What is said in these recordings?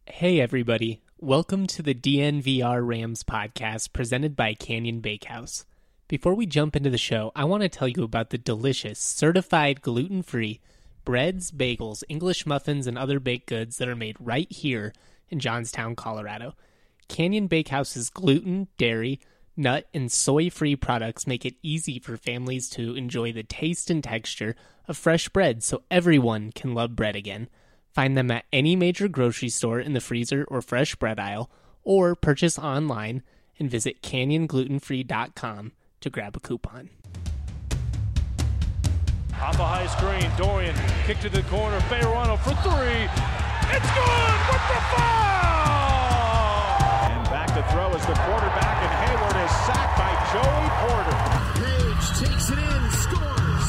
Hey everybody, welcome to the DNVR Rams podcast presented by Canyon Bakehouse. Before we jump into the show, I want to tell you about the delicious, certified gluten-free breads, bagels, English muffins, and other baked goods that are made right here in Johnstown, Colorado. Canyon Bakehouse's gluten, dairy, nut, and soy-free products make it easy for families to enjoy the taste and texture of fresh bread so everyone can love bread again. Find them at any major grocery store in the freezer or fresh bread aisle, or purchase online and visit canyonglutenfree.com to grab a coupon. Off a high screen, Dorian kick to the corner, Bejarano for three. It's good with the foul! And back to throw is the quarterback, and Hayward is sacked by Joey Porter. Page takes it in, scores.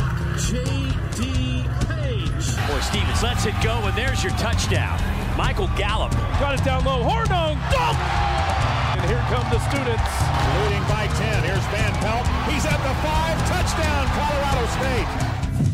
J.D. Page. Boy, Stevens lets it go, and there's your touchdown. Michael Gallup. Got it down low, Hornung, dunk! And here come the students. Leading by 10, here's Van Pelt. He's at the 5, touchdown, Colorado State.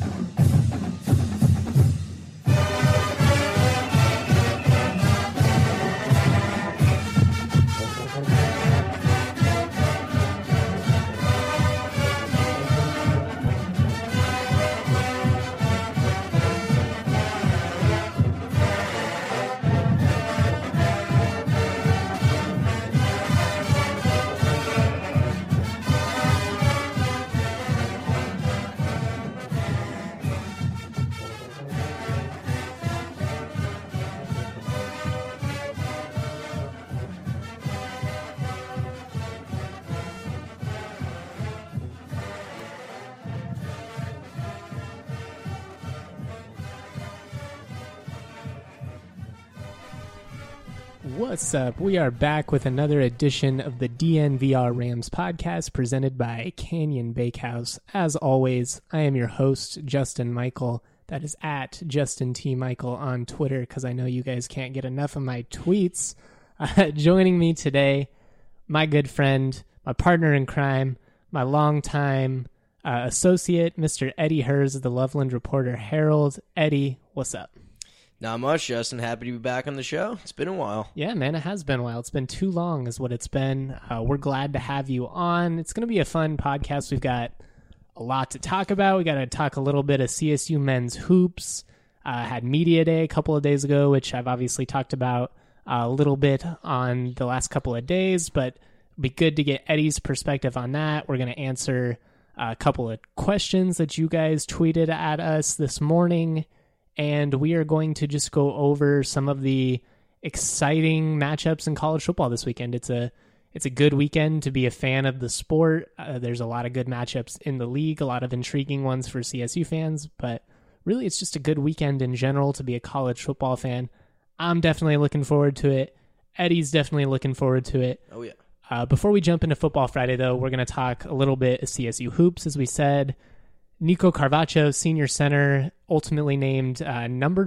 What's up? We are back with another edition of the DNVR Rams podcast presented by Canyon Bakehouse. As always, I am your host, Justin Michael. That is at Justin T. Michael on Twitter, because I know you guys can't get enough of my tweets. Joining me today, my good friend, my partner in crime, my longtime associate, Mr. Eddie Hers of the Loveland Reporter Herald. Eddie, what's up? Not much, Justin. Happy to be back on the show. It's been a while. Yeah, man, it has been a while. It's been too long is what it's been. We're glad to have you on. It's going to be a fun podcast. We've got a lot to talk about. We got to talk a little bit of CSU men's hoops. Had Media Day a couple of days ago, which I've obviously talked about a little bit on the last couple of days, but it'd be good to get Eddie's perspective on that. We're going to answer a couple of questions that you guys tweeted at us this morning. And we are going to just go over some of the exciting matchups in college football this weekend. It's a good weekend to be a fan of the sport. There's a lot of good matchups in the league, a lot of intriguing ones for CSU fans, but really it's just a good weekend in general to be a college football fan. I'm definitely looking forward to it. Eddie's definitely looking forward to it. Oh, yeah. Before we jump into Football Friday, though, we're going to talk a little bit of CSU hoops, as we said. Nico Carvacho, senior center, ultimately named number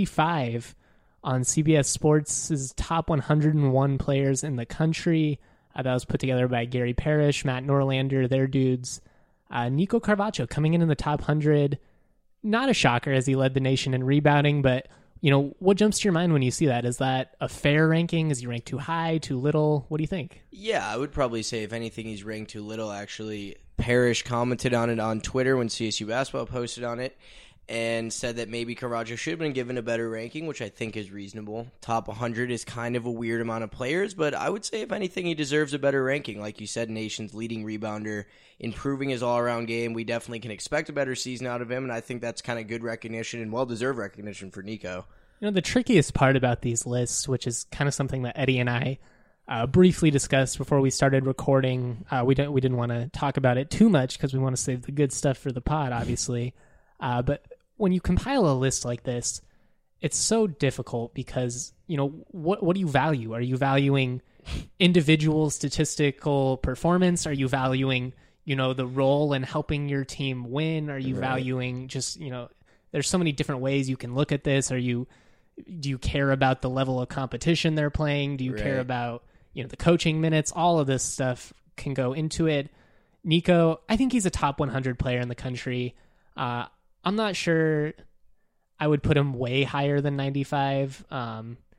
95 on CBS Sports' top 101 players in the country. That was put together by Gary Parrish, Matt Norlander, their dudes. Nico Carvacho coming in the top 100. Not a shocker as he led the nation in rebounding, but what jumps to your mind when you see that? Is that a fair ranking? Is he ranked too high, too little? What do you think? Yeah, I would probably say, if anything, he's ranked too little, actually. Parrish commented on it on Twitter when CSU Basketball posted on it and said that maybe Carvacho should have been given a better ranking, which I think is reasonable. Top 100 is kind of a weird amount of players, but I would say, if anything, he deserves a better ranking. Like you said, nation's leading rebounder, improving his all-around game. We definitely can expect a better season out of him, and I think that's kind of good recognition and well-deserved recognition for Nico. The trickiest part about these lists, which is kind of something that Eddie and I briefly discussed before we started recording. We didn't want to talk about it too much because we want to save the good stuff for the pod, obviously. But when you compile a list like this, it's so difficult because, what do you value? Are you valuing individual statistical performance? Are you valuing, the role in helping your team win? Are you valuing just, there's so many different ways you can look at this. Do you care about the level of competition they're playing? Do you care about, the coaching minutes? All of this stuff can go into it. Nico, I think he's a top 100 player in the country. I'm not sure I would put him way higher than 95.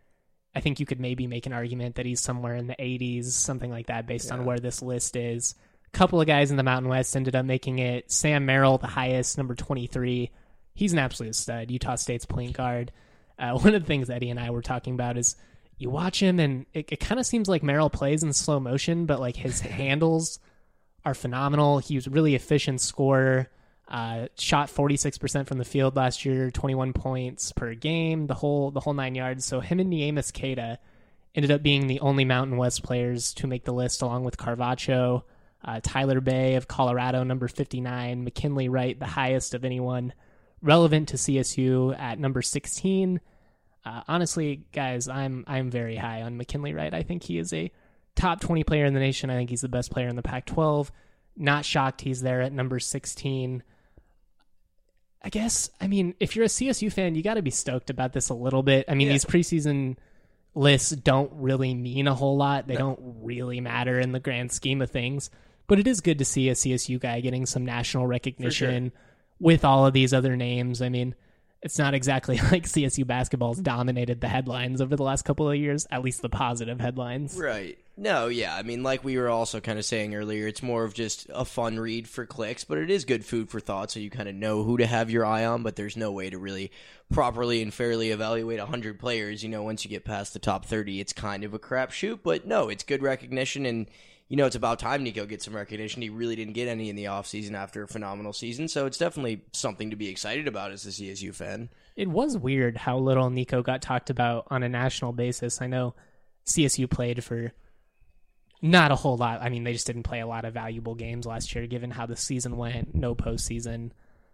I think you could maybe make an argument that he's somewhere in the 80s, something like that, based on where this list is. A couple of guys in the Mountain West ended up making it. Sam Merrill, the highest, number 23. He's an absolute stud. Utah State's point guard. One of the things Eddie and I were talking about is you watch him, and it kind of seems like Merrill plays in slow motion, but like his handles are phenomenal. He was a really efficient scorer. Shot 46% from the field last year, 21 points per game, the whole 9 yards. So him and Neemias Queta ended up being the only Mountain West players to make the list, along with Carvacho, Tyler Bay of Colorado, number 59, McKinley Wright, the highest of anyone relevant to CSU at number 16. Honestly, guys, I'm very high on McKinley Wright. I think he is a top 20 player in the nation. I think he's the best player in the Pac-12. Not shocked he's there at number 16. I guess, I mean, if you're a CSU fan, you got to be stoked about this a little bit. I mean, these preseason lists don't really mean a whole lot. They don't really matter in the grand scheme of things. But it is good to see a CSU guy getting some national recognition with all of these other names. I mean, it's not exactly like CSU basketball's dominated the headlines over the last couple of years, at least the positive headlines. Right. No, yeah. I mean, like we were also kind of saying earlier, it's more of just a fun read for clicks, but it is good food for thought, so you kind of know who to have your eye on, but there's no way to really properly and fairly evaluate 100 players. You know, once you get past the top 30, it's kind of a crapshoot, but no, it's good recognition, and you know, it's about time Nico gets some recognition. He really didn't get any in the offseason after a phenomenal season, so it's definitely something to be excited about as a CSU fan. It was weird how little Nico got talked about on a national basis. I know CSU played for not a whole lot. I mean, they just didn't play a lot of valuable games last year, given how the season went, no postseason.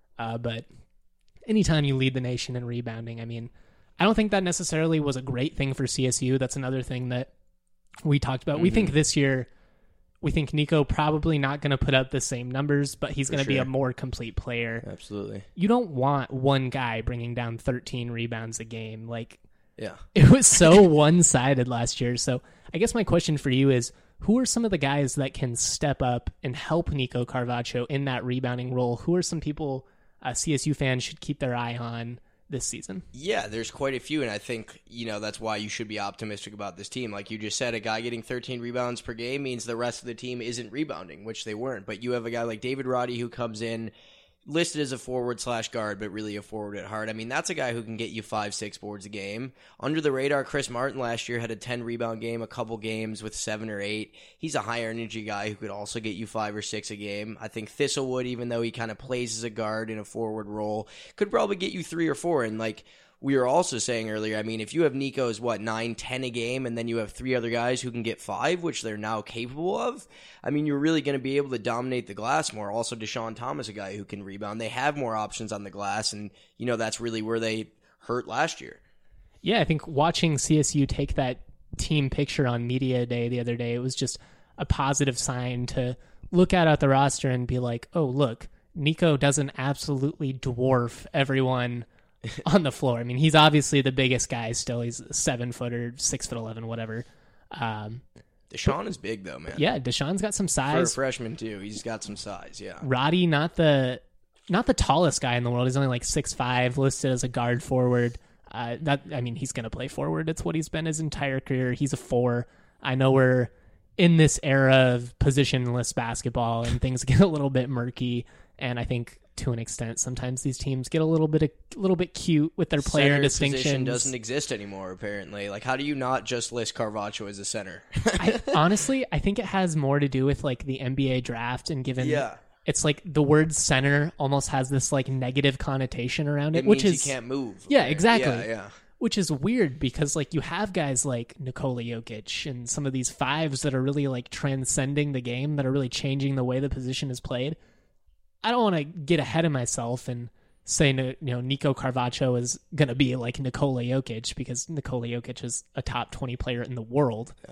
But anytime you lead the nation in rebounding, I mean, I don't think that necessarily was a great thing for CSU. That's another thing that we talked about. We think this year, we think Nico probably not going to put up the same numbers, but he's going to be a more complete player. Absolutely. You don't want one guy bringing down 13 rebounds a game. Like, yeah, it was so one-sided last year. So I guess my question for you is, who are some of the guys that can step up and help Nico Carvacho in that rebounding role? Who are some people CSU fans should keep their eye on this season? Yeah, there's quite a few, and I think, you know, that's why you should be optimistic about this team. Like you just said, a guy getting 13 rebounds per game means the rest of the team isn't rebounding, which they weren't. But you have a guy like David Roddy who comes in, listed as a forward/guard, but really a forward at heart. I mean, that's a guy who can get you 5-6 boards a game. Under the radar, Chris Martin last year had a 10-rebound game, a couple games with 7 or 8. He's a higher-energy guy who could also get you 5 or 6 a game. I think Thistlewood, even though he kind of plays as a guard in a forward role, could probably get you 3 or 4. And, like we were also saying earlier, I mean, if you have Nico's, 9, 10 a game, and then you have 3 other guys who can get 5, which they're now capable of, I mean, you're really going to be able to dominate the glass more. Also, Deshaun Thomas, a guy who can rebound. They have more options on the glass, and, you know, that's really where they hurt last year. Yeah, I think watching CSU take that team picture on Media Day the other day, it was just a positive sign to look at the roster and be like, oh, look, Nico doesn't absolutely dwarf everyone on the floor. I mean, he's obviously the biggest guy still. He's 7-footer, 6'11", whatever. Deshaun is big though, man. Yeah, Deshaun's got some size. For a freshman too, he's got some size. Yeah. Roddy, not the tallest guy in the world. He's only like 6'5", listed as a guard forward. He's going to play forward. It's what he's been his entire career. He's a 4. I know we're in this era of positionless basketball and things get a little bit murky, and I think to an extent, sometimes these teams get a little bit cute with their player center distinctions. Position doesn't exist anymore, apparently. Like, how do you not just list Carvacho as a center? Honestly, I think it has more to do with like the NBA draft, and given it's like the word center almost has this like negative connotation around it, which means is he can't move. Yeah, exactly. Yeah. Which is weird because like you have guys like Nikola Jokic and some of these 5s that are really like transcending the game, that are really changing the way the position is played. I don't want to get ahead of myself and say, Nico Carvacho is going to be like Nikola Jokic, because Nikola Jokic is a top 20 player in the world. Yeah.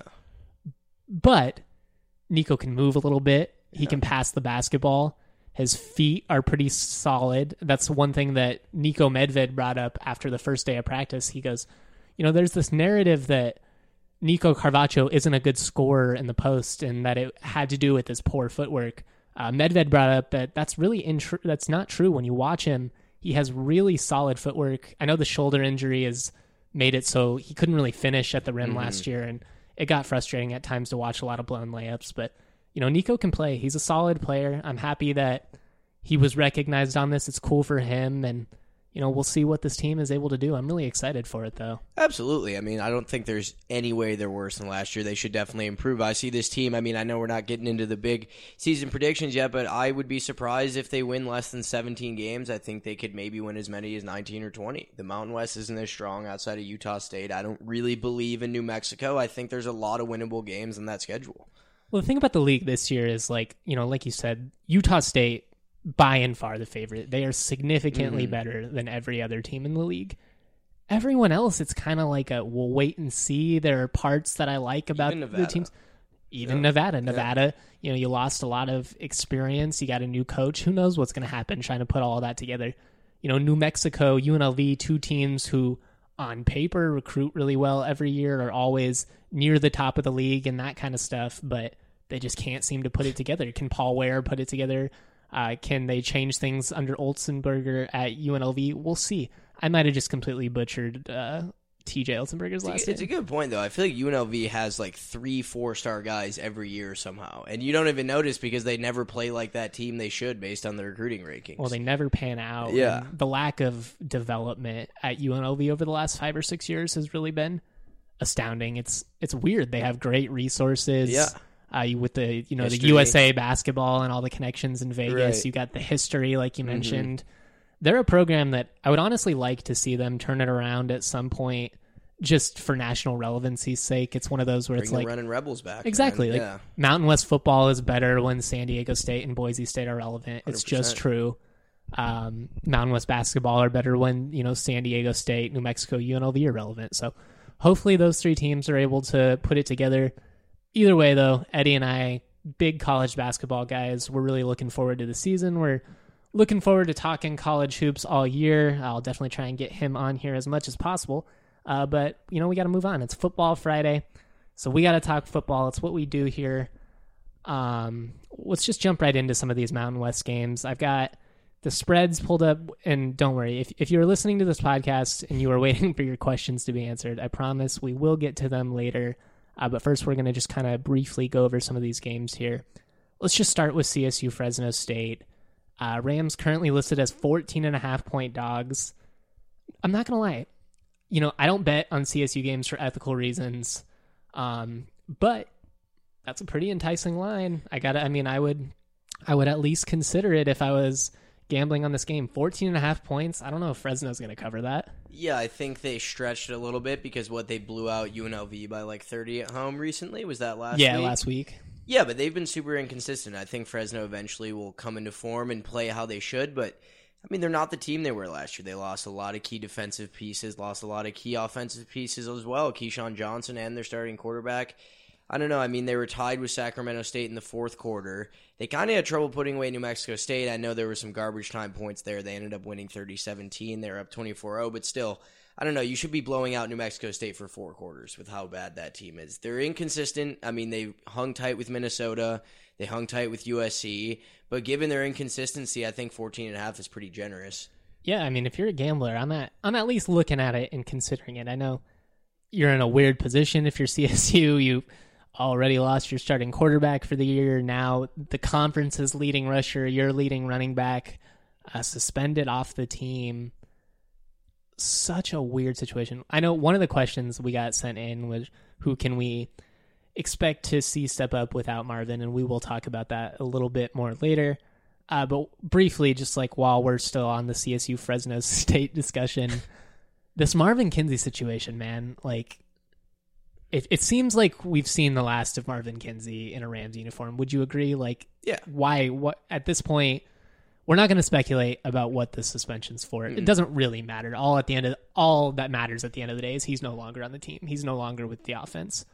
But Nico can move a little bit. He can pass the basketball. His feet are pretty solid. That's one thing that Nico Medved brought up after the first day of practice. He goes, there's this narrative that Nico Carvacho isn't a good scorer in the post and that it had to do with his poor footwork. Medved brought up that that's really that's not true. When you watch him, he has really solid footwork. I know the shoulder injury is made it so he couldn't really finish at the rim last year, and it got frustrating at times to watch a lot of blown layups. But, Nico can play. He's a solid player. I'm happy that he was recognized on this. It's cool for him, and we'll see what this team is able to do. I'm really excited for it, though. Absolutely. I mean, I don't think there's any way they're worse than last year. They should definitely improve. I see this team. I mean, I know we're not getting into the big season predictions yet, but I would be surprised if they win less than 17 games. I think they could maybe win as many as 19 or 20. The Mountain West isn't as strong outside of Utah State. I don't really believe in New Mexico. I think there's a lot of winnable games in that schedule. Well, the thing about the league this year is, like you said, Utah State, by and far the favorite. They are significantly better than every other team in the league. Everyone else, it's kind of like we'll wait and see. There are parts that I like about the teams. Even Nevada. Nevada, you lost a lot of experience. You got a new coach. Who knows what's going to happen trying to put all that together. New Mexico, UNLV, two teams who on paper recruit really well every year, are always near the top of the league and that kind of stuff, but they just can't seem to put it together. Can Paul Ware put it together? Can they change things under Olsenberger at UNLV? We'll see. I might have just completely butchered TJ Olsenberger's last name. It's a good point, though. I feel like UNLV has like 3 4-star guys every year somehow, and you don't even notice because they never play like that team they should based on the recruiting rankings. Well, they never pan out. Yeah. And the lack of development at UNLV over the last 5 or 6 years has really been astounding. It's weird. They have great resources. Yeah. With the history. The USA basketball and all the connections in Vegas, Right. You got the history, like you mentioned. They're a program that I would honestly like to see them turn it around at some point, just for national relevancy's sake. It's one of those where Bring it's the like running Rebels back. exactly Man. like Mountain West football is better when San Diego State and Boise State are relevant. It's 100%. just true. Mountain West basketball are better when San Diego State, New Mexico, UNLV are relevant. So hopefully those 3 teams are able to put it together. Either way, though, Eddie and I, big college basketball guys, we're really looking forward to the season. We're looking forward to talking college hoops all year. I'll definitely try and get him on here as much as possible. But, we got to move on. It's Football Friday, so we got to talk football. It's what we do here. Let's just jump right into some of these Mountain West games. I've got the spreads pulled up, and don't worry. If you're listening to this podcast and you are waiting for your questions to be answered, I promise we will get to them later. But first, we're going to just kind of briefly go over some of these games here. Let's just start with CSU Fresno State. Rams currently listed as 14.5-point dogs. I'm not going to lie. I don't bet on CSU games for ethical reasons. But that's a pretty enticing line. I would at least consider it if I was gambling on this game. 14.5 points. I don't know if Fresno's going to cover that. Yeah, I think they stretched it a little bit because they blew out UNLV by like 30 at home recently. Was that last week? Yeah, last week. Yeah, but they've been super inconsistent. I think Fresno eventually will come into form and play how they should, but they're not the team they were last year. They lost a lot of key defensive pieces, lost a lot of key offensive pieces as well. Keyshawn Johnson and their starting quarterback. I don't know. They were tied with Sacramento State in the fourth quarter. They kind of had trouble putting away New Mexico State. I know there were some garbage time points there. They ended up winning 30-17. They were up 24-0, but still, I don't know. You should be blowing out New Mexico State for 4 quarters with how bad that team is. They're inconsistent. They hung tight with Minnesota. They hung tight with USC. But given their inconsistency, I think 14.5 is pretty generous. Yeah, if you're a gambler, I'm at least looking at it and considering it. I know you're in a weird position if you're CSU. You already lost your starting quarterback for the year. Now the conference's leading rusher, your leading running back, suspended off the team. Such a weird situation. I know one of the questions we got sent in was, who can we expect to see step up without Marvin? And we will talk about that a little bit more later. But briefly, just like while we're still on the CSU Fresno State discussion, this Marvin Kinsey situation, man, like, it seems like we've seen the last of Marvin Kinsey in a Rams uniform. Would you agree? Like, yeah. Why? What at this point? We're not going to speculate about what the suspension's for. It doesn't really matter. All that matters at the end of the day is he's no longer on the team. He's no longer with the offense.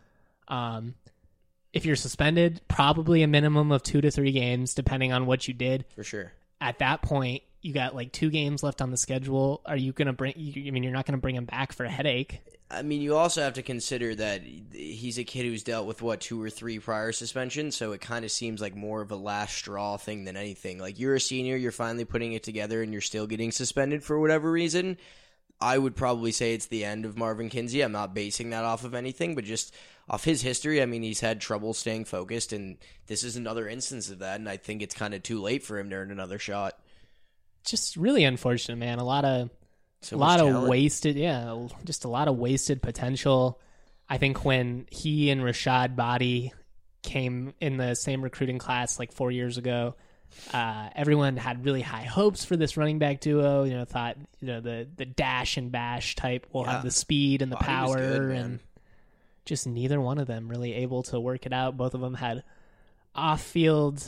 If you're suspended, probably a minimum of 2 to 3 games, depending on what you did. For sure. At that point, you got like 2 games left on the schedule. Are you going to bring? You're not going to bring him back for a headache. You also have to consider that he's a kid who's dealt with, 2 or 3 prior suspensions, so it kind of seems like more of a last straw thing than anything. Like, you're a senior, you're finally putting it together, and you're still getting suspended for whatever reason. I would probably say it's the end of Marvin Kinsey. I'm not basing that off of anything, but just off his history. I mean, he's had trouble staying focused, and this is another instance of that, and I think it's kind of too late for him to earn another shot. Just really unfortunate, man. A lot of wasted, just a lot of wasted potential. I think when he and Rashad Body came in the same recruiting class like 4 years ago, everyone had really high hopes for this running back duo. Thought the dash and bash type will have the speed and the power, good, and just neither one of them really able to work it out. Both of them had off-field,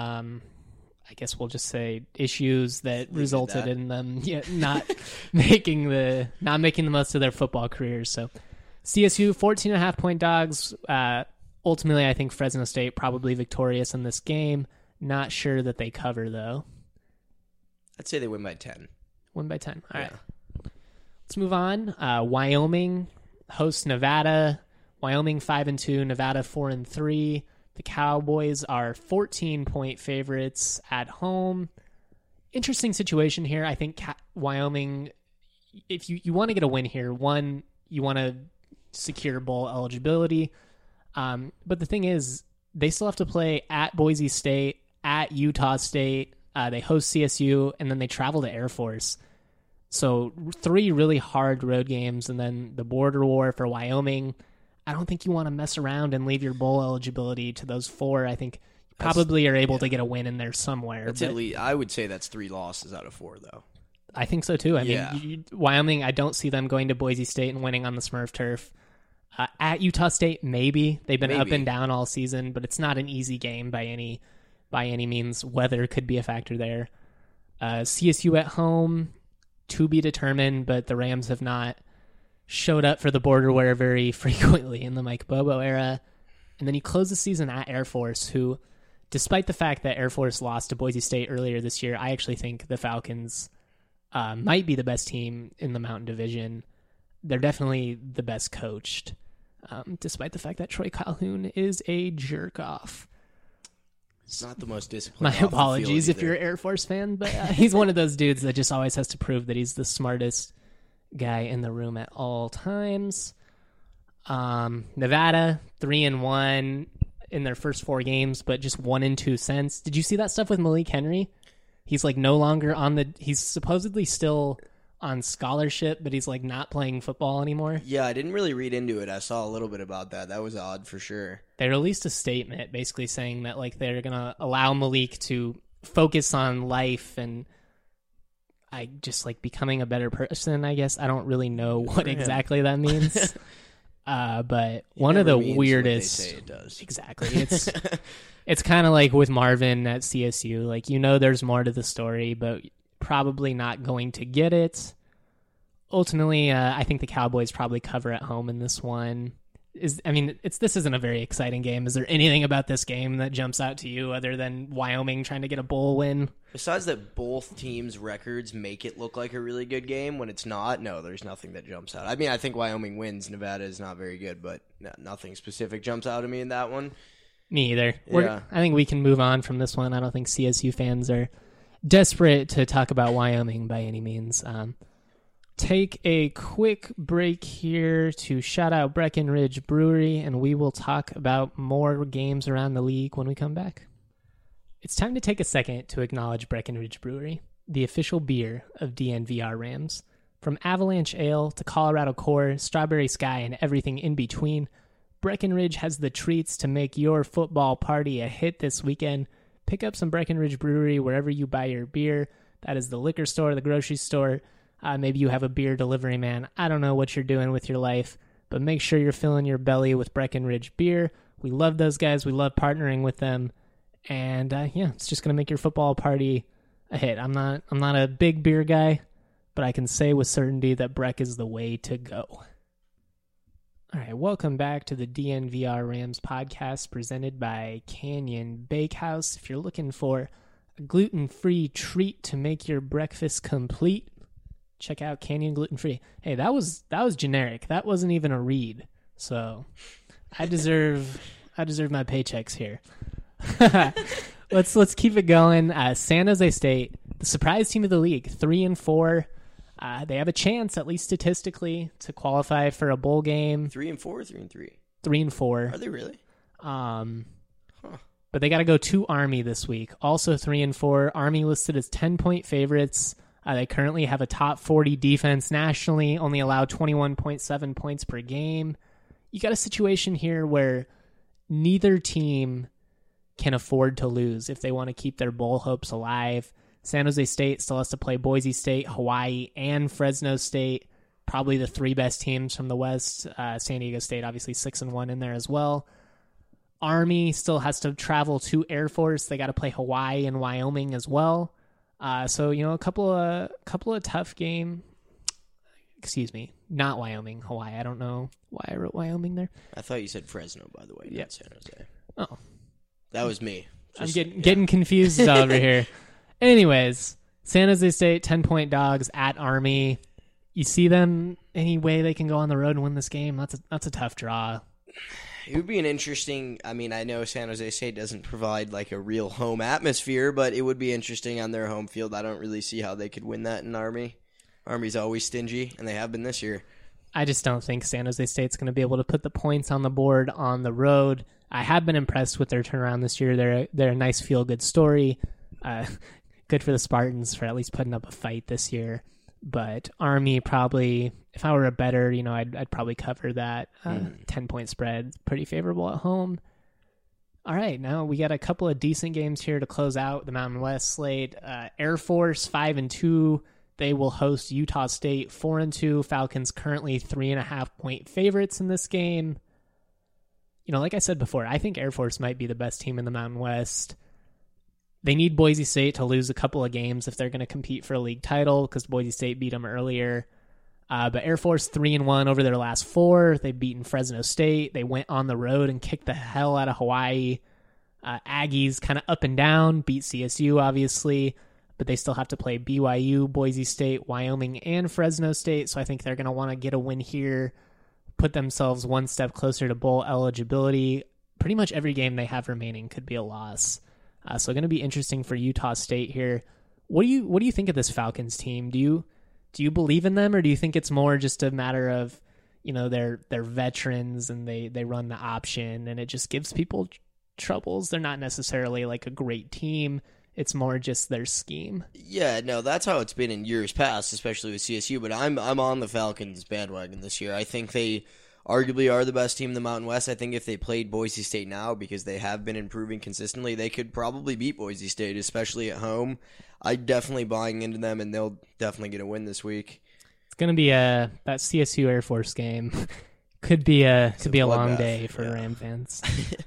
I guess we'll just say, issues that resulted in them not making the most of their football careers. So CSU 14.5-point dogs. Ultimately, I think Fresno State probably victorious in this game. Not sure that they cover, though. I'd say they win by 10. Win by 10. All right. Let's move on. Wyoming hosts Nevada. Wyoming 5-2, Nevada 4-3. The Cowboys are 14-point favorites at home. Interesting situation here. I think Wyoming, if you want to get a win here, one, you want to secure bowl eligibility. But the thing is, they still have to play at Boise State, at Utah State. They host CSU, and then they travel to Air Force. So 3 really hard road games, and then the border war for Wyoming. I don't think you want to mess around and leave your bowl eligibility to those 4. I think you probably are able to get a win in there somewhere. That's at least, I would say that's 3 losses out of 4, though. I think so, too. I mean, Wyoming, I don't see them going to Boise State and winning on the Smurf turf. At Utah State, maybe. They've been up and down all season, but it's not an easy game by any means. Weather could be a factor there. CSU at home, to be determined, but the Rams have not showed up for the border war very frequently in the Mike Bobo era. And then you close the season at Air Force, who, despite the fact that Air Force lost to Boise State earlier this year, I actually think the Falcons might be the best team in the Mountain Division. They're definitely the best coached, despite the fact that Troy Calhoun is a jerk-off. It's not the most disciplined. My apologies if you're an Air Force fan, but he's one of those dudes that just always has to prove that he's the smartest guy in the room at all times. Nevada 3-1 in their first 4 games, but just 1-2 since. Did you see that stuff with Malik Henry? He's like no longer he's supposedly still on scholarship, but he's like not playing football anymore. Yeah, I didn't really read into it. I saw a little bit about that. That was odd for sure. They released a statement basically saying that like they're gonna allow Malik to focus on life and I just like becoming a better person, I guess. I don't really know what exactly that means. But one of the weirdest. What they say it does. Exactly. It's kind of like with Marvin at CSU. Like, there's more to the story, but probably not going to get it. Ultimately, I think the Cowboys probably cover at home in this one. This isn't a very exciting game. Is there anything about this game that jumps out to you other than Wyoming trying to get a bowl win? Besides that both teams' records make it look like a really good game when it's not, no, there's nothing that jumps out. I mean, I think Wyoming wins. Nevada is not very good, but nothing specific jumps out at me in that one. Me either. I think we can move on from this one. I don't think CSU fans are desperate to talk about Wyoming by any means. Take a quick break here to shout out Breckenridge Brewery, and we will talk about more games around the league when we come back. It's time to take a second to acknowledge Breckenridge Brewery, the official beer of DNVR Rams. From Avalanche Ale to Colorado Core, Strawberry Sky, and everything in between, Breckenridge has the treats to make your football party a hit this weekend. Pick up some Breckenridge Brewery wherever you buy your beer. That is the liquor store, the grocery store. Maybe you have a beer delivery man. I don't know what you're doing with your life, but make sure you're filling your belly with Breckenridge beer. We love those guys. We love partnering with them. And it's just going to make your football party a hit. I'm not a big beer guy, but I can say with certainty that Breck is the way to go. All right, welcome back to the DNVR Rams podcast presented by Canyon Bakehouse. If you're looking for a gluten-free treat to make your breakfast complete, check out Canyon Gluten Free. Hey, that was generic. That wasn't even a read. So I deserve my paychecks here. Let's keep it going. San Jose State, the surprise team of the league, 3-4. They have a chance, at least statistically, to qualify for a bowl game. 3-4 or 3-3? 3-4. Are they really? But they got to go to Army this week. Also 3-4. Army listed as 10-point favorites. They currently have a top 40 defense nationally, only allow 21.7 points per game. You got a situation here where neither team can afford to lose if they want to keep their bowl hopes alive. San Jose State still has to play Boise State, Hawaii, and Fresno State. Probably the three best teams from the West. San Diego State, obviously 6-1 in there as well. Army still has to travel to Air Force. They got to play Hawaii and Wyoming as well. So a couple of tough game. Excuse me, not Wyoming, Hawaii. I don't know why I wrote Wyoming there. I thought you said Fresno, by the way, not San Jose. Oh, that was me. I'm getting confused over here. Anyways, San Jose State 10-point dogs at Army. You see them any way they can go on the road and win this game? That's a tough draw. It would be an interesting. I mean, I know San Jose State doesn't provide like a real home atmosphere, but it would be interesting on their home field. I don't really see how they could win that in Army. Army's always stingy, and they have been this year. I just don't think San Jose State's going to be able to put the points on the board on the road. I have been impressed with their turnaround this year. They're a nice feel-good story. Good for the Spartans for at least putting up a fight this year. But Army probably, if I were a bettor, I'd probably cover that 10-point spread. Pretty favorable at home. All right, now we got a couple of decent games here to close out the Mountain West slate. Air Force 5-2. They will host Utah State 4-2. Falcons currently 3.5-point favorites in this game. Like I said before, I think Air Force might be the best team in the Mountain West. They need Boise State to lose a couple of games if they're going to compete for a league title because Boise State beat them earlier. But Air Force 3-1 over their last 4. They've beaten Fresno State. They went on the road and kicked the hell out of Hawaii. Aggies kind of up and down, beat CSU obviously, but they still have to play BYU, Boise State, Wyoming, and Fresno State. So I think they're going to want to get a win here, put themselves one step closer to bowl eligibility. Pretty much every game they have remaining could be a loss. So going to be interesting for Utah State here. What do you think of this Falcons team? Do you believe in them, or do you think it's more just a matter of they're veterans and they run the option and it just gives people troubles? They're not necessarily like a great team. It's more just their scheme. Yeah, no, that's how it's been in years past, especially with CSU. But I'm on the Falcons bandwagon this year. I think they arguably are the best team in the Mountain West. I think if they played Boise State now, because they have been improving consistently, they could probably beat Boise State, especially at home. I'm definitely buying into them, and they'll definitely get a win this week. It's going to be that CSU Air Force game. could be a long day for Ram fans.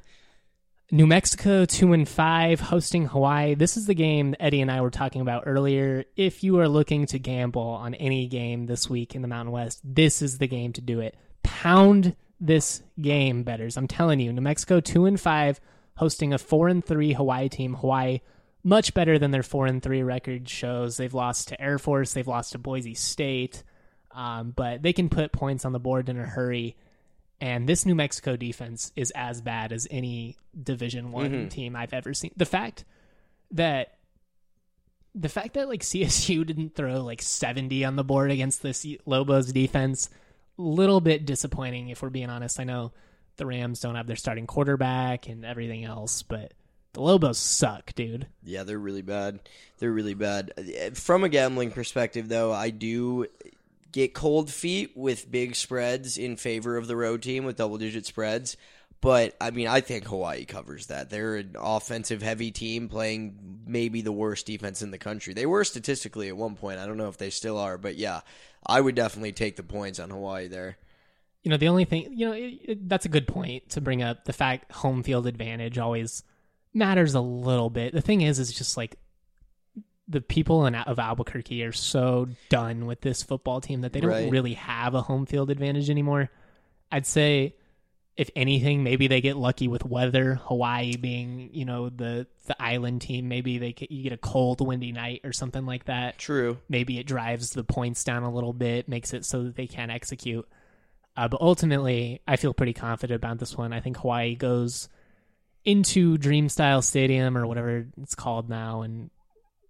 New Mexico 2-5 hosting Hawaii. This is the game Eddie and I were talking about earlier. If you are looking to gamble on any game this week in the Mountain West, this is the game to do it. Pound this game, bettors. I'm telling you, New Mexico 2-5 hosting a 4-3 Hawaii team. Hawaii much better than their 4-3 record shows. They've lost to Air Force, they've lost to Boise State, but they can put points on the board in a hurry. And this New Mexico defense is as bad as any Division I team I've ever seen. The fact that like CSU didn't throw like 70 on the board against this Lobos defense, little bit disappointing if we're being honest. I know the Rams don't have their starting quarterback and everything else, but the Lobos suck, dude. Yeah, they're really bad. They're really bad. From a gambling perspective, though, I do get cold feet with big spreads in favor of the road team with double-digit spreads. But, I mean, I think Hawaii covers that. They're an offensive-heavy team playing maybe the worst defense in the country. They were statistically at one point. I don't know if they still are. But, yeah, I would definitely take the points on Hawaii there. The only thing, that's a good point to bring up. The fact home field advantage always matters a little bit. The thing is just like the people of Albuquerque are so done with this football team that they don't really have a home field advantage anymore. I'd say, if anything, maybe they get lucky with weather. Hawaii being, the island team, maybe you get a cold, windy night or something like that. True. Maybe it drives the points down a little bit, makes it so that they can't execute. But ultimately, I feel pretty confident about this one. I think Hawaii goes into Dream Style Stadium or whatever it's called now and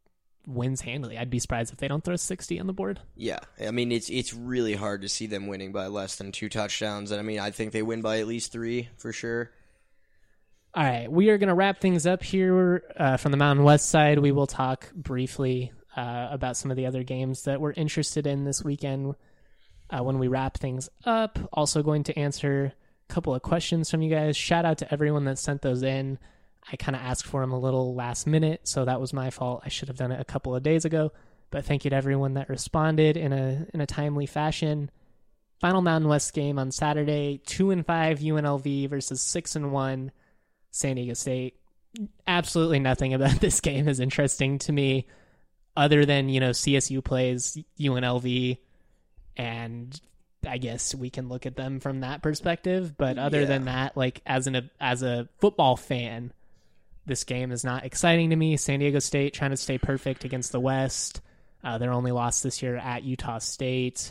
wins handily. I'd be surprised if they don't throw 60 on the board. Yeah, I mean, it's really hard to see them winning by less than 2 touchdowns. And I mean, I think they win by at least 3 for sure. All right, we are going to wrap things up here from the Mountain West side. We will talk briefly about some of the other games that we're interested in this weekend when we wrap things up. Also going to answer a couple of questions from you guys. Shout out to everyone that sent those in. I kind of asked for them a little last minute, so that was my fault. I should have done it a couple of days ago. But thank you to everyone that responded in a timely fashion. Final Mountain West game on Saturday, 2-5 UNLV versus 6-1 San Diego State. Absolutely nothing about this game is interesting to me other than, CSU plays UNLV, and I guess we can look at them from that perspective. But other than that, like as a football fan, this game is not exciting to me. San Diego State trying to stay perfect against the West. Their only loss this year at Utah State.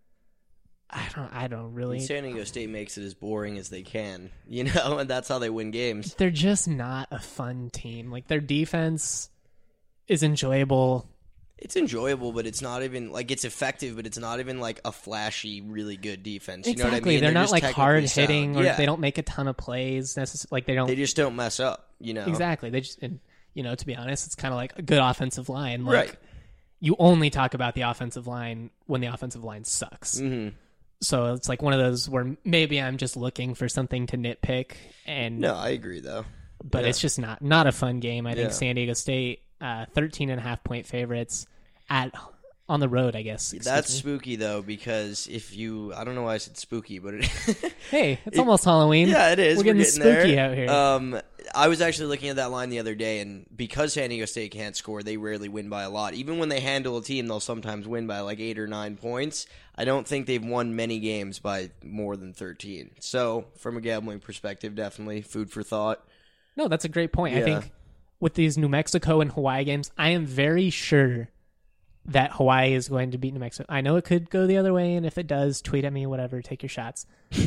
I don't really. San Diego State makes it as boring as they can, and that's how they win games. They're just not a fun team. Like, their defense is enjoyable. It's enjoyable, but it's not even like it's effective, but it's not even like a flashy, really good defense. You know what I mean? They're not just like hard hitting, or yeah. they don't make a ton of plays. Like They just don't mess up. Exactly. They just, and, to be honest, it's kind of like a good offensive line. Like, right. You only talk about the offensive line when the offensive line sucks. Mm-hmm. So it's like one of those where maybe I'm just looking for something to nitpick. And no, I agree though. But it's just not a fun game. I think Yeah. San Diego State, 13.5-point favorites on the road, I guess. That's spooky though, because I don't know why I said spooky, but hey, it's almost Halloween. Yeah, it is. We're getting spooky there. out here. I was actually looking at that line the other day, and because San Diego State can't score, they rarely win by a lot. Even when they handle a team, they'll sometimes win by like 8 or 9 points. I don't think they've won many games by more than 13. So, from a gambling perspective, definitely food for thought. No, that's a great point. Yeah. I think with these New Mexico and Hawaii games, I am very sure that Hawaii is going to beat New Mexico. I know it could go the other way, and if it does, tweet at me, whatever, take your shots.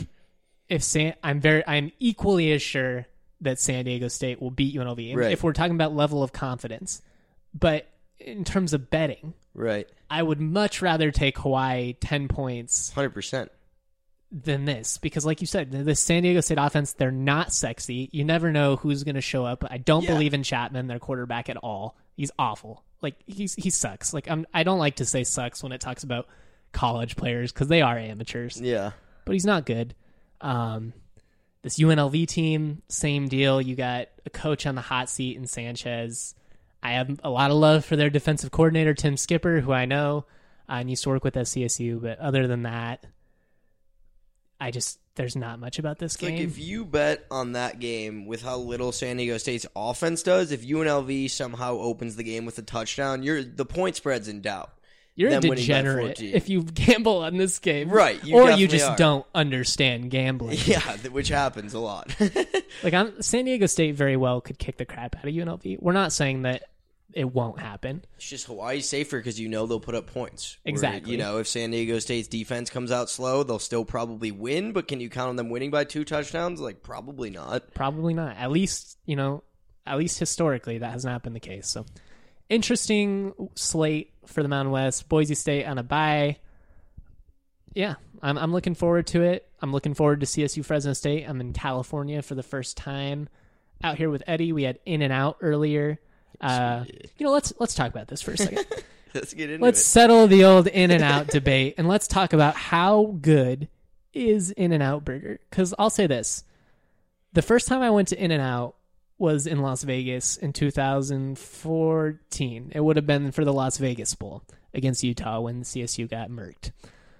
I'm equally as sure that San Diego State will beat UNLV. Right. If we're talking about level of confidence. But in terms of betting, right, I would much rather take Hawaii 10 points 100%. than this. Because like you said, the San Diego State offense, they're not sexy. You never know who's going to show up. I don't believe in Chapman, their quarterback, at all. He's awful. Like, he sucks. Like, I don't like to say sucks when it talks about college players because they are amateurs. Yeah. But he's not good. This UNLV team, same deal. You got a coach on the hot seat in Sanchez. I have a lot of love for their defensive coordinator, Tim Skipper, who I know and used to work with at CSU. But other than that, there's not much about this game. Like, if you bet on that game with how little San Diego State's offense does, if UNLV somehow opens the game with a touchdown, the point spread's in doubt. You're a them winning by degenerate 14. if you gamble on this game. Right. Or you definitely just are. don't understand gambling. Yeah, which happens a lot. Like, San Diego State very well could kick the crap out of UNLV. We're not saying that it won't happen. It's just Hawaii's safer because they'll put up points. Exactly. If San Diego State's defense comes out slow, they'll still probably win, but can you count on them winning by 2 touchdowns? Like, probably not. Probably not. At least historically, that has not been the case. So, interesting slate for the Mountain West. Boise State on a bye. Yeah, I'm looking forward to it. I'm looking forward to CSU Fresno State. I'm in California for the first time. Out here with Eddie, we had In-N-Out earlier. Let's talk about this for a second. Let's get into Let's it. settle the old In-N-Out debate, and let's talk about how good is In-N-Out Burger. Because I'll say this. The first time I went to In-N-Out was in Las Vegas in 2014. It would have been for the Las Vegas Bowl against Utah when CSU got murked.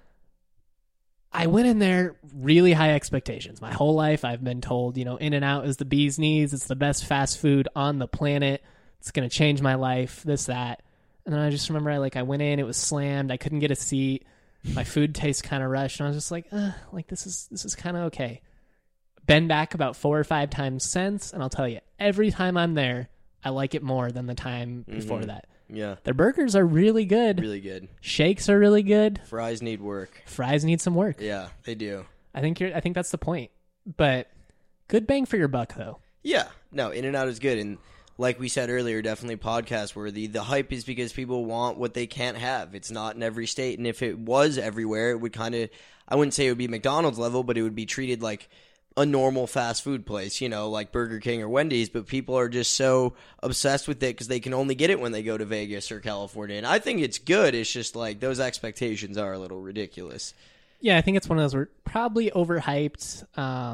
I went in there really high expectations. My whole life I've been told, In-N-Out is the bee's knees. It's the best fast food on the planet. It's going to change my life, this, that. And then I just remember I went in, it was slammed. I couldn't get a seat. My food tastes kind of rushed. And I was just this is kind of okay. Been back about 4 or 5 times since. And I'll tell you, every time I'm there, I like it more than the time before that. Yeah. Their burgers are really good. Really good. Shakes are really good. Fries need work. Fries need some work. Yeah, they do. I think that's the point. But good bang for your buck, though. Yeah. No, In-N-Out is good. And like we said earlier, definitely podcast worthy. The hype is because people want what they can't have. It's not in every state, and if it was everywhere, it would kind of, I wouldn't say it would be McDonald's level, but it would be treated like a normal fast food place, like Burger King or Wendy's, but people are just so obsessed with it because they can only get it when they go to Vegas or California. And I think it's good. It's just like those expectations are a little ridiculous. Yeah, I think it's one of those we're probably overhyped.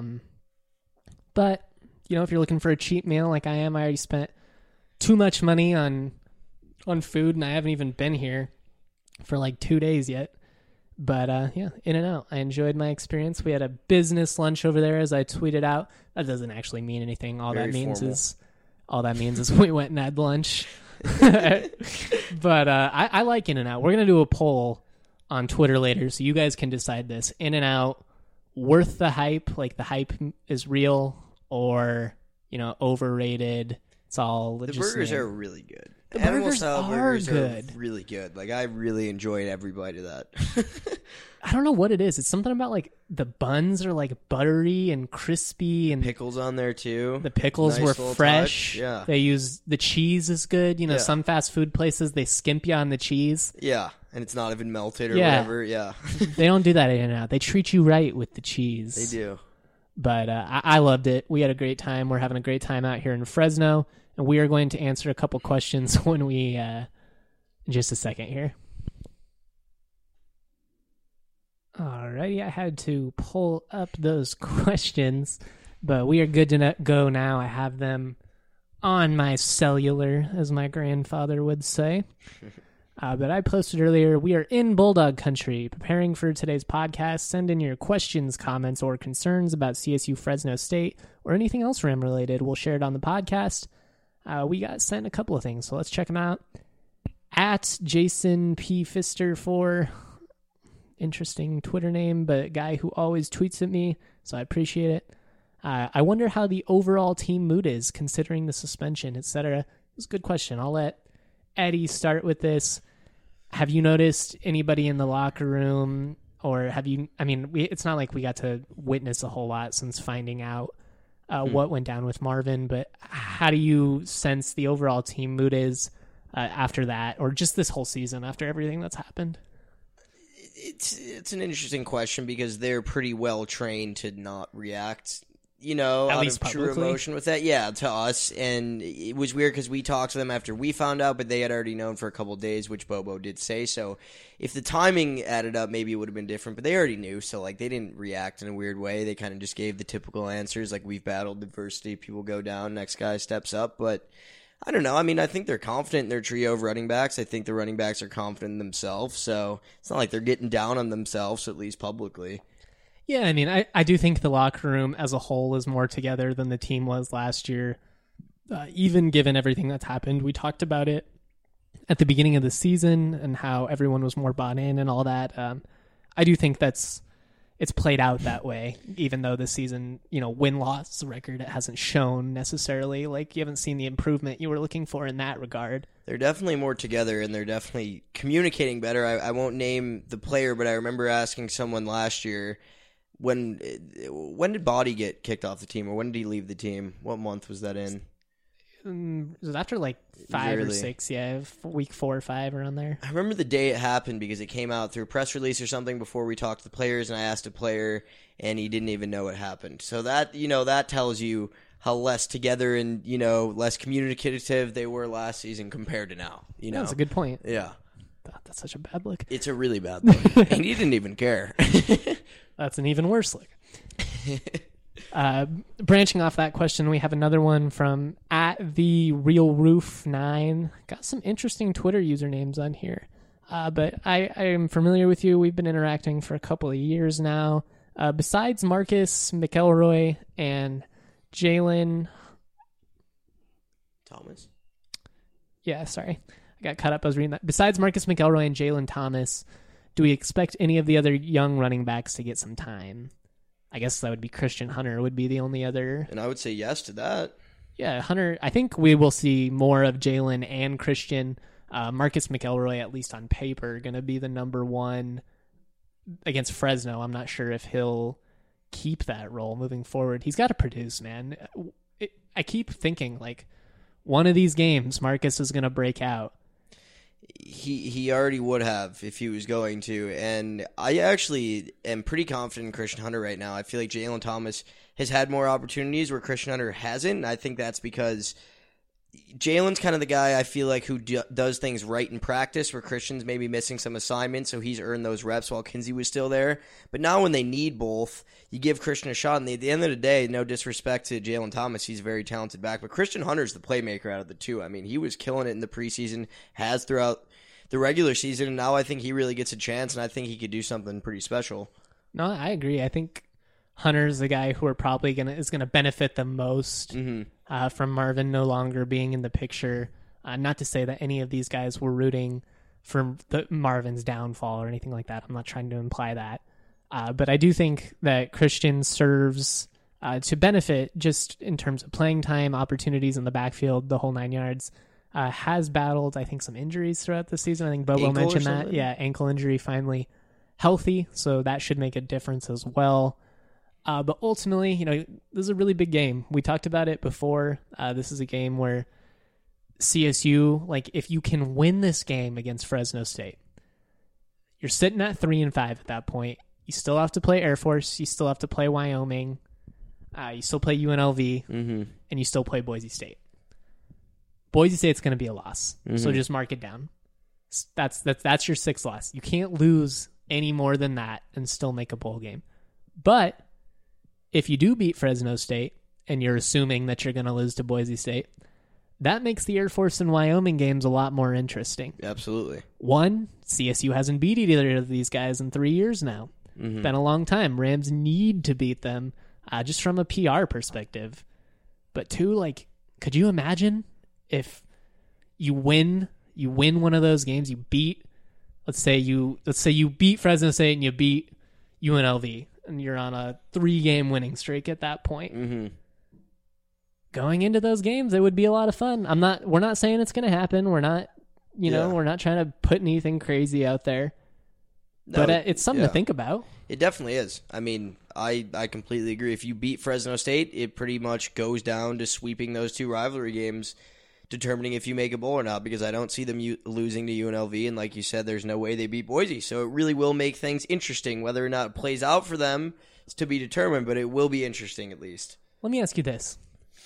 But, if you're looking for a cheap meal like I am, I already spent too much money on food, and I haven't even been here for like 2 days yet. But, In-N-Out. I enjoyed my experience. We had a business lunch over there, as I tweeted out. That doesn't actually mean anything. All that means is we went and had lunch. But I like In-N-Out. We're going to do a poll on Twitter later, so you guys can decide this. In-N-Out, worth the hype? Like, the hype is real, or, overrated? It's all the just burgers are really good. The Animal burgers style are burgers good. are really good. Like, I really enjoyed every bite of that. I don't know what it is. It's something about like the buns are like buttery and crispy, and Pickles on there too. the pickles Nice were little fresh. touch. Yeah. They use the cheese is good. Yeah. Some fast food places they skimp you on the cheese. Yeah, and it's not even melted or Yeah. whatever. Yeah, They don't do that in and out. They treat you right with the cheese. they do. But I loved it. We had a great time. We're having a great time out here in Fresno, and we are going to answer a couple questions when we in just a second here. Alrighty, I had to pull up those questions, but we are good to go now. I have them on my cellular, as my grandfather would say. But I posted earlier, we are in Bulldog Country, preparing for today's podcast. Send in your questions, comments, or concerns about CSU Fresno State or anything else Ram related. We'll share it on the podcast. We got sent a couple of things, so let's check them out. At Jason P. Fister 4, interesting Twitter name, but guy who always tweets at me, so I appreciate it. I wonder how the overall team mood is considering the suspension, etc. It's a good question. I'll let Eddie start with this. Have you noticed anybody in the locker room, or have you, it's not like we got to witness a whole lot since finding out what went down with Marvin, but how do you sense the overall team mood is after that, or just this whole season after everything that's happened? It's an interesting question because they're pretty well trained to not react, At out least of true publicly. emotion with that. Yeah, to us. And it was weird because we talked to them after we found out, but they had already known for a couple of days, which Bobo did say. So if the timing added up, maybe it would have been different, but they already knew. So like they didn't react in a weird way. They kind of just gave the typical answers. Like, we've battled adversity. People go down. Next guy steps up. But I don't know. I think they're confident in their trio of running backs. I think the running backs are confident in themselves. So it's not like they're getting down on themselves, at least publicly. Yeah, I do think the locker room as a whole is more together than the team was last year, even given everything that's happened. We talked about it at the beginning of the season and how everyone was more bought in and all that. I do think it's played out that way, even though this season, win-loss record, it hasn't shown necessarily. Like, you haven't seen the improvement you were looking for in that regard. They're definitely more together, and they're definitely communicating better. I won't name the player, but I remember asking someone last year, when did Body get kicked off the team, or when did he leave the team? What month was that in? It was after like 5 or 6, week 4 or 5, around there. I remember the day it happened because it came out through a press release or something before we talked to the players, and I asked a player, and he didn't even know what happened. So that, that tells you how less together and, less communicative they were last season compared to now. That's a good point. Yeah. That's such a bad look. It's a really bad look. And he didn't even care. That's an even worse look. Branching off that question, we have another one from @TheRealRoof9. Got some interesting Twitter usernames on here. But I am familiar with you. We've been interacting for a couple of years now. Besides Marcus McElroy and Jalen Thomas? Yeah, sorry. I got caught up. I was reading that. Besides Marcus McElroy and Jalen Thomas, do we expect any of the other young running backs to get some time? I guess that would be Christian Hunter would be the only other. And I would say yes to that. Yeah, Hunter. I think we will see more of Jalen and Christian. Marcus McElroy, at least on paper, going to be the number one against Fresno. I'm not sure if he'll keep that role moving forward. He's got to produce, man. I keep thinking, like, one of these games, Marcus is going to break out. He already would have if he was going to, and I actually am pretty confident in Christian Hunter right now. I feel like Jalen Thomas has had more opportunities where Christian Hunter hasn't, and I think that's because Jalen's kind of the guy I feel like who does things right in practice, where Christian's maybe missing some assignments, so he's earned those reps while Kinsey was still there. But now when they need both, you give Christian a shot, and at the end of the day, no disrespect to Jalen Thomas, he's a very talented back, but Christian Hunter's the playmaker out of the two. I mean, he was killing it in the preseason, has throughout the regular season, and now I think he really gets a chance, and I think he could do something pretty special. No, I agree. I think Hunter's the guy who is gonna benefit the most from Marvin no longer being in the picture. Not to say that any of these guys were rooting for Marvin's downfall or anything like that. I'm not trying to imply that. But I do think that Christian serves to benefit just in terms of playing time, opportunities in the backfield, the whole 9 yards. Has battled, I think, some injuries throughout the season. I think Bobo mentioned that. Yeah, ankle injury, finally healthy, so that should make a difference as well. But ultimately, this is a really big game. We talked about it before. This is a game where CSU, if you can win this game against Fresno State, you're sitting at 3-5 at that point. You still have to play Air Force. You still have to play Wyoming. You still play UNLV, and you still play Boise State. Boise State's going to be a loss, so just mark it down. That's your 6th loss. You can't lose any more than that and still make a bowl game. But if you do beat Fresno State, and you're assuming that you're going to lose to Boise State, that makes the Air Force and Wyoming games a lot more interesting. Absolutely. One, CSU hasn't beat either of these guys in 3 years now. Been a long time. Rams need to beat them just from a PR perspective. But two, could you imagine if you win one of those games, you beat, let's say you beat Fresno State and you beat UNLV, and you're on a 3-game winning streak at that point. Going into those games, it would be a lot of fun. We're not saying it's going to happen. We're not, we're not trying to put anything crazy out there. No, but it's something to think about. It definitely is. I mean, I completely agree. If you beat Fresno State, it pretty much goes down to sweeping those 2 rivalry games, determining if you make a bowl or not, because I don't see them losing to UNLV, and like you said, there's no way they beat Boise. So it really will make things interesting. Whether or not it plays out for them is to be determined, but it will be interesting at least. Let me ask you this.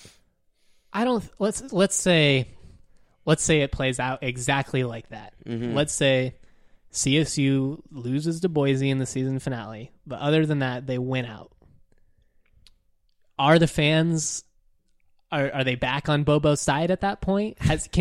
Let's say it plays out exactly like that. Let's say CSU loses to Boise in the season finale, but other than that, they win out. Are the fans... Are they back on Bobo's side at that point?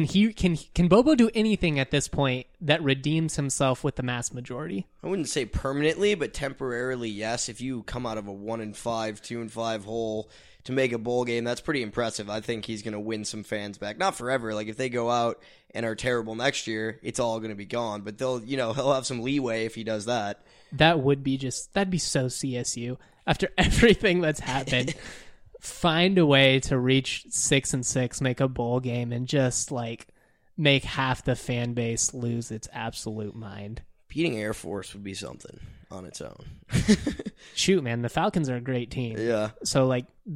Can Bobo do anything at this point that redeems himself with the mass majority? I wouldn't say permanently, but temporarily, yes. If you come out of a 1-5, 2-5 hole to make a bowl game, that's pretty impressive. I think he's going to win some fans back. Not forever. If they go out and are terrible next year, it's all going to be gone. But he'll have some leeway if he does that. That'd be so CSU after everything that's happened. Find a way to reach 6-6, make a bowl game, and just make half the fan base lose its absolute mind. Beating Air Force would be something on its own. Shoot, man, the Falcons are a great team. Yeah. So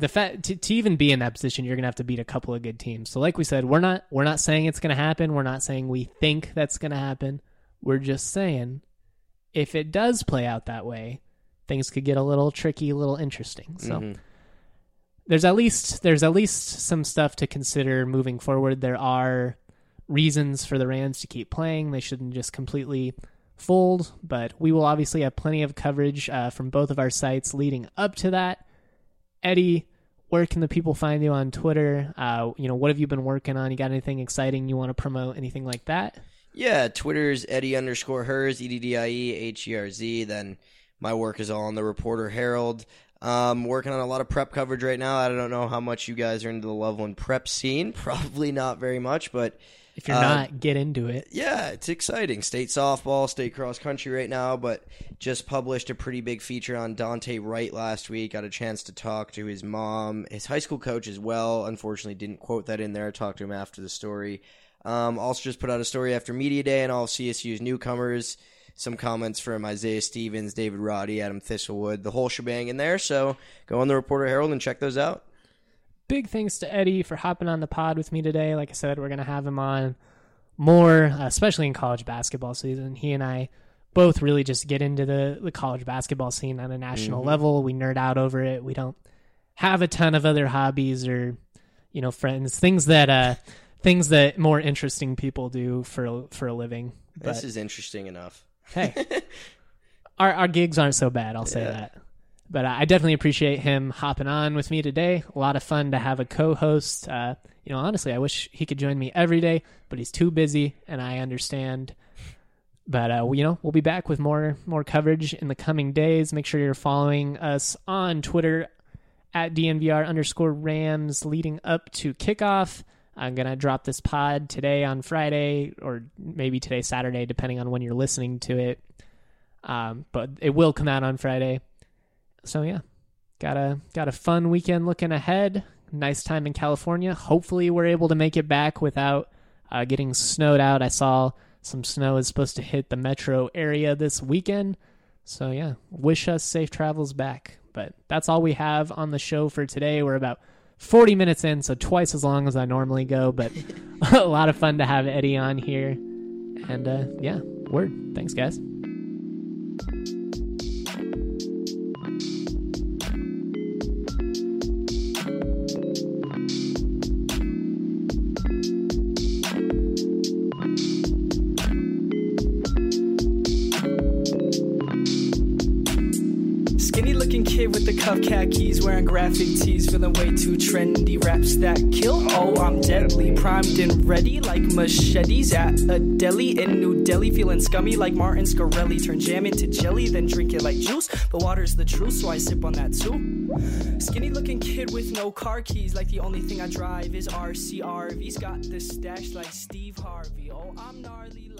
to even be in that position, you're gonna have to beat a couple of good teams. So like we said, we're not saying it's gonna happen. We're not saying we think that's gonna happen. We're just saying if it does play out that way, things could get a little tricky, a little interesting. So. There's at least some stuff to consider moving forward. There are reasons for the Rams to keep playing. They shouldn't just completely fold, but we will obviously have plenty of coverage from both of our sites leading up to that. Eddie, where can the people find you on Twitter? What have you been working on? You got anything exciting you want to promote? Anything like that? Yeah, Twitter's Eddie_Herz, EDDIEHERZ. Then my work is all on the Reporter Herald. Working on a lot of prep coverage right now. I don't know how much you guys are into the Loveland prep scene. Probably not very much, but if you're not, get into it. Yeah, it's exciting. State softball, state cross country right now, but just published a pretty big feature on Dante Wright last week. Got a chance to talk to his mom, his high school coach as well. Unfortunately, didn't quote that in there. I talked to him after the story. Also just put out a story after Media Day and all of CSU's newcomers. Some comments from Isaiah Stevens, David Roddy, Adam Thistlewood, the whole shebang in there. So go on the Reporter Herald and check those out. big thanks to Eddie for hopping on the pod with me today. Like I said, we're going to have him on more, especially in college basketball season. He and I both really just get into the college basketball scene on a national level. We nerd out over it. We don't have a ton of other hobbies or, friends, things that more interesting people do for a living. This is interesting enough. Hey, our gigs aren't so bad. I'll say that. But I definitely appreciate him hopping on with me today. A lot of fun to have a co-host. Honestly, I wish he could join me every day, but he's too busy, and I understand. But, we'll be back with more coverage in the coming days. Make sure you're following us on Twitter at DNVR_Rams leading up to kickoff. I'm going to drop this pod today on Friday, or maybe today, Saturday, depending on when you're listening to it. But it will come out on Friday. So yeah, got a fun weekend looking ahead. Nice time in California. Hopefully we're able to make it back without getting snowed out. I saw some snow is supposed to hit the metro area this weekend. So yeah, wish us safe travels back. But that's all we have on the show for today. We're about 40 minutes in, so twice as long as I normally go. But a lot of fun to have Eddie on here. And yeah, word. Thanks, guys. With the cuff khakis, wearing graphic tees, feeling way too trendy. Raps that kill, oh, I'm deadly. Primed and ready like machetes at a deli in New Delhi. Feeling scummy like Martin Scarelli. Turn jam into jelly, then drink it like juice. But water's the truth, so I sip on that too. Skinny looking kid with no car keys, like the only thing I drive is RCRV's got the stash like Steve Harvey. Oh, I'm gnarly.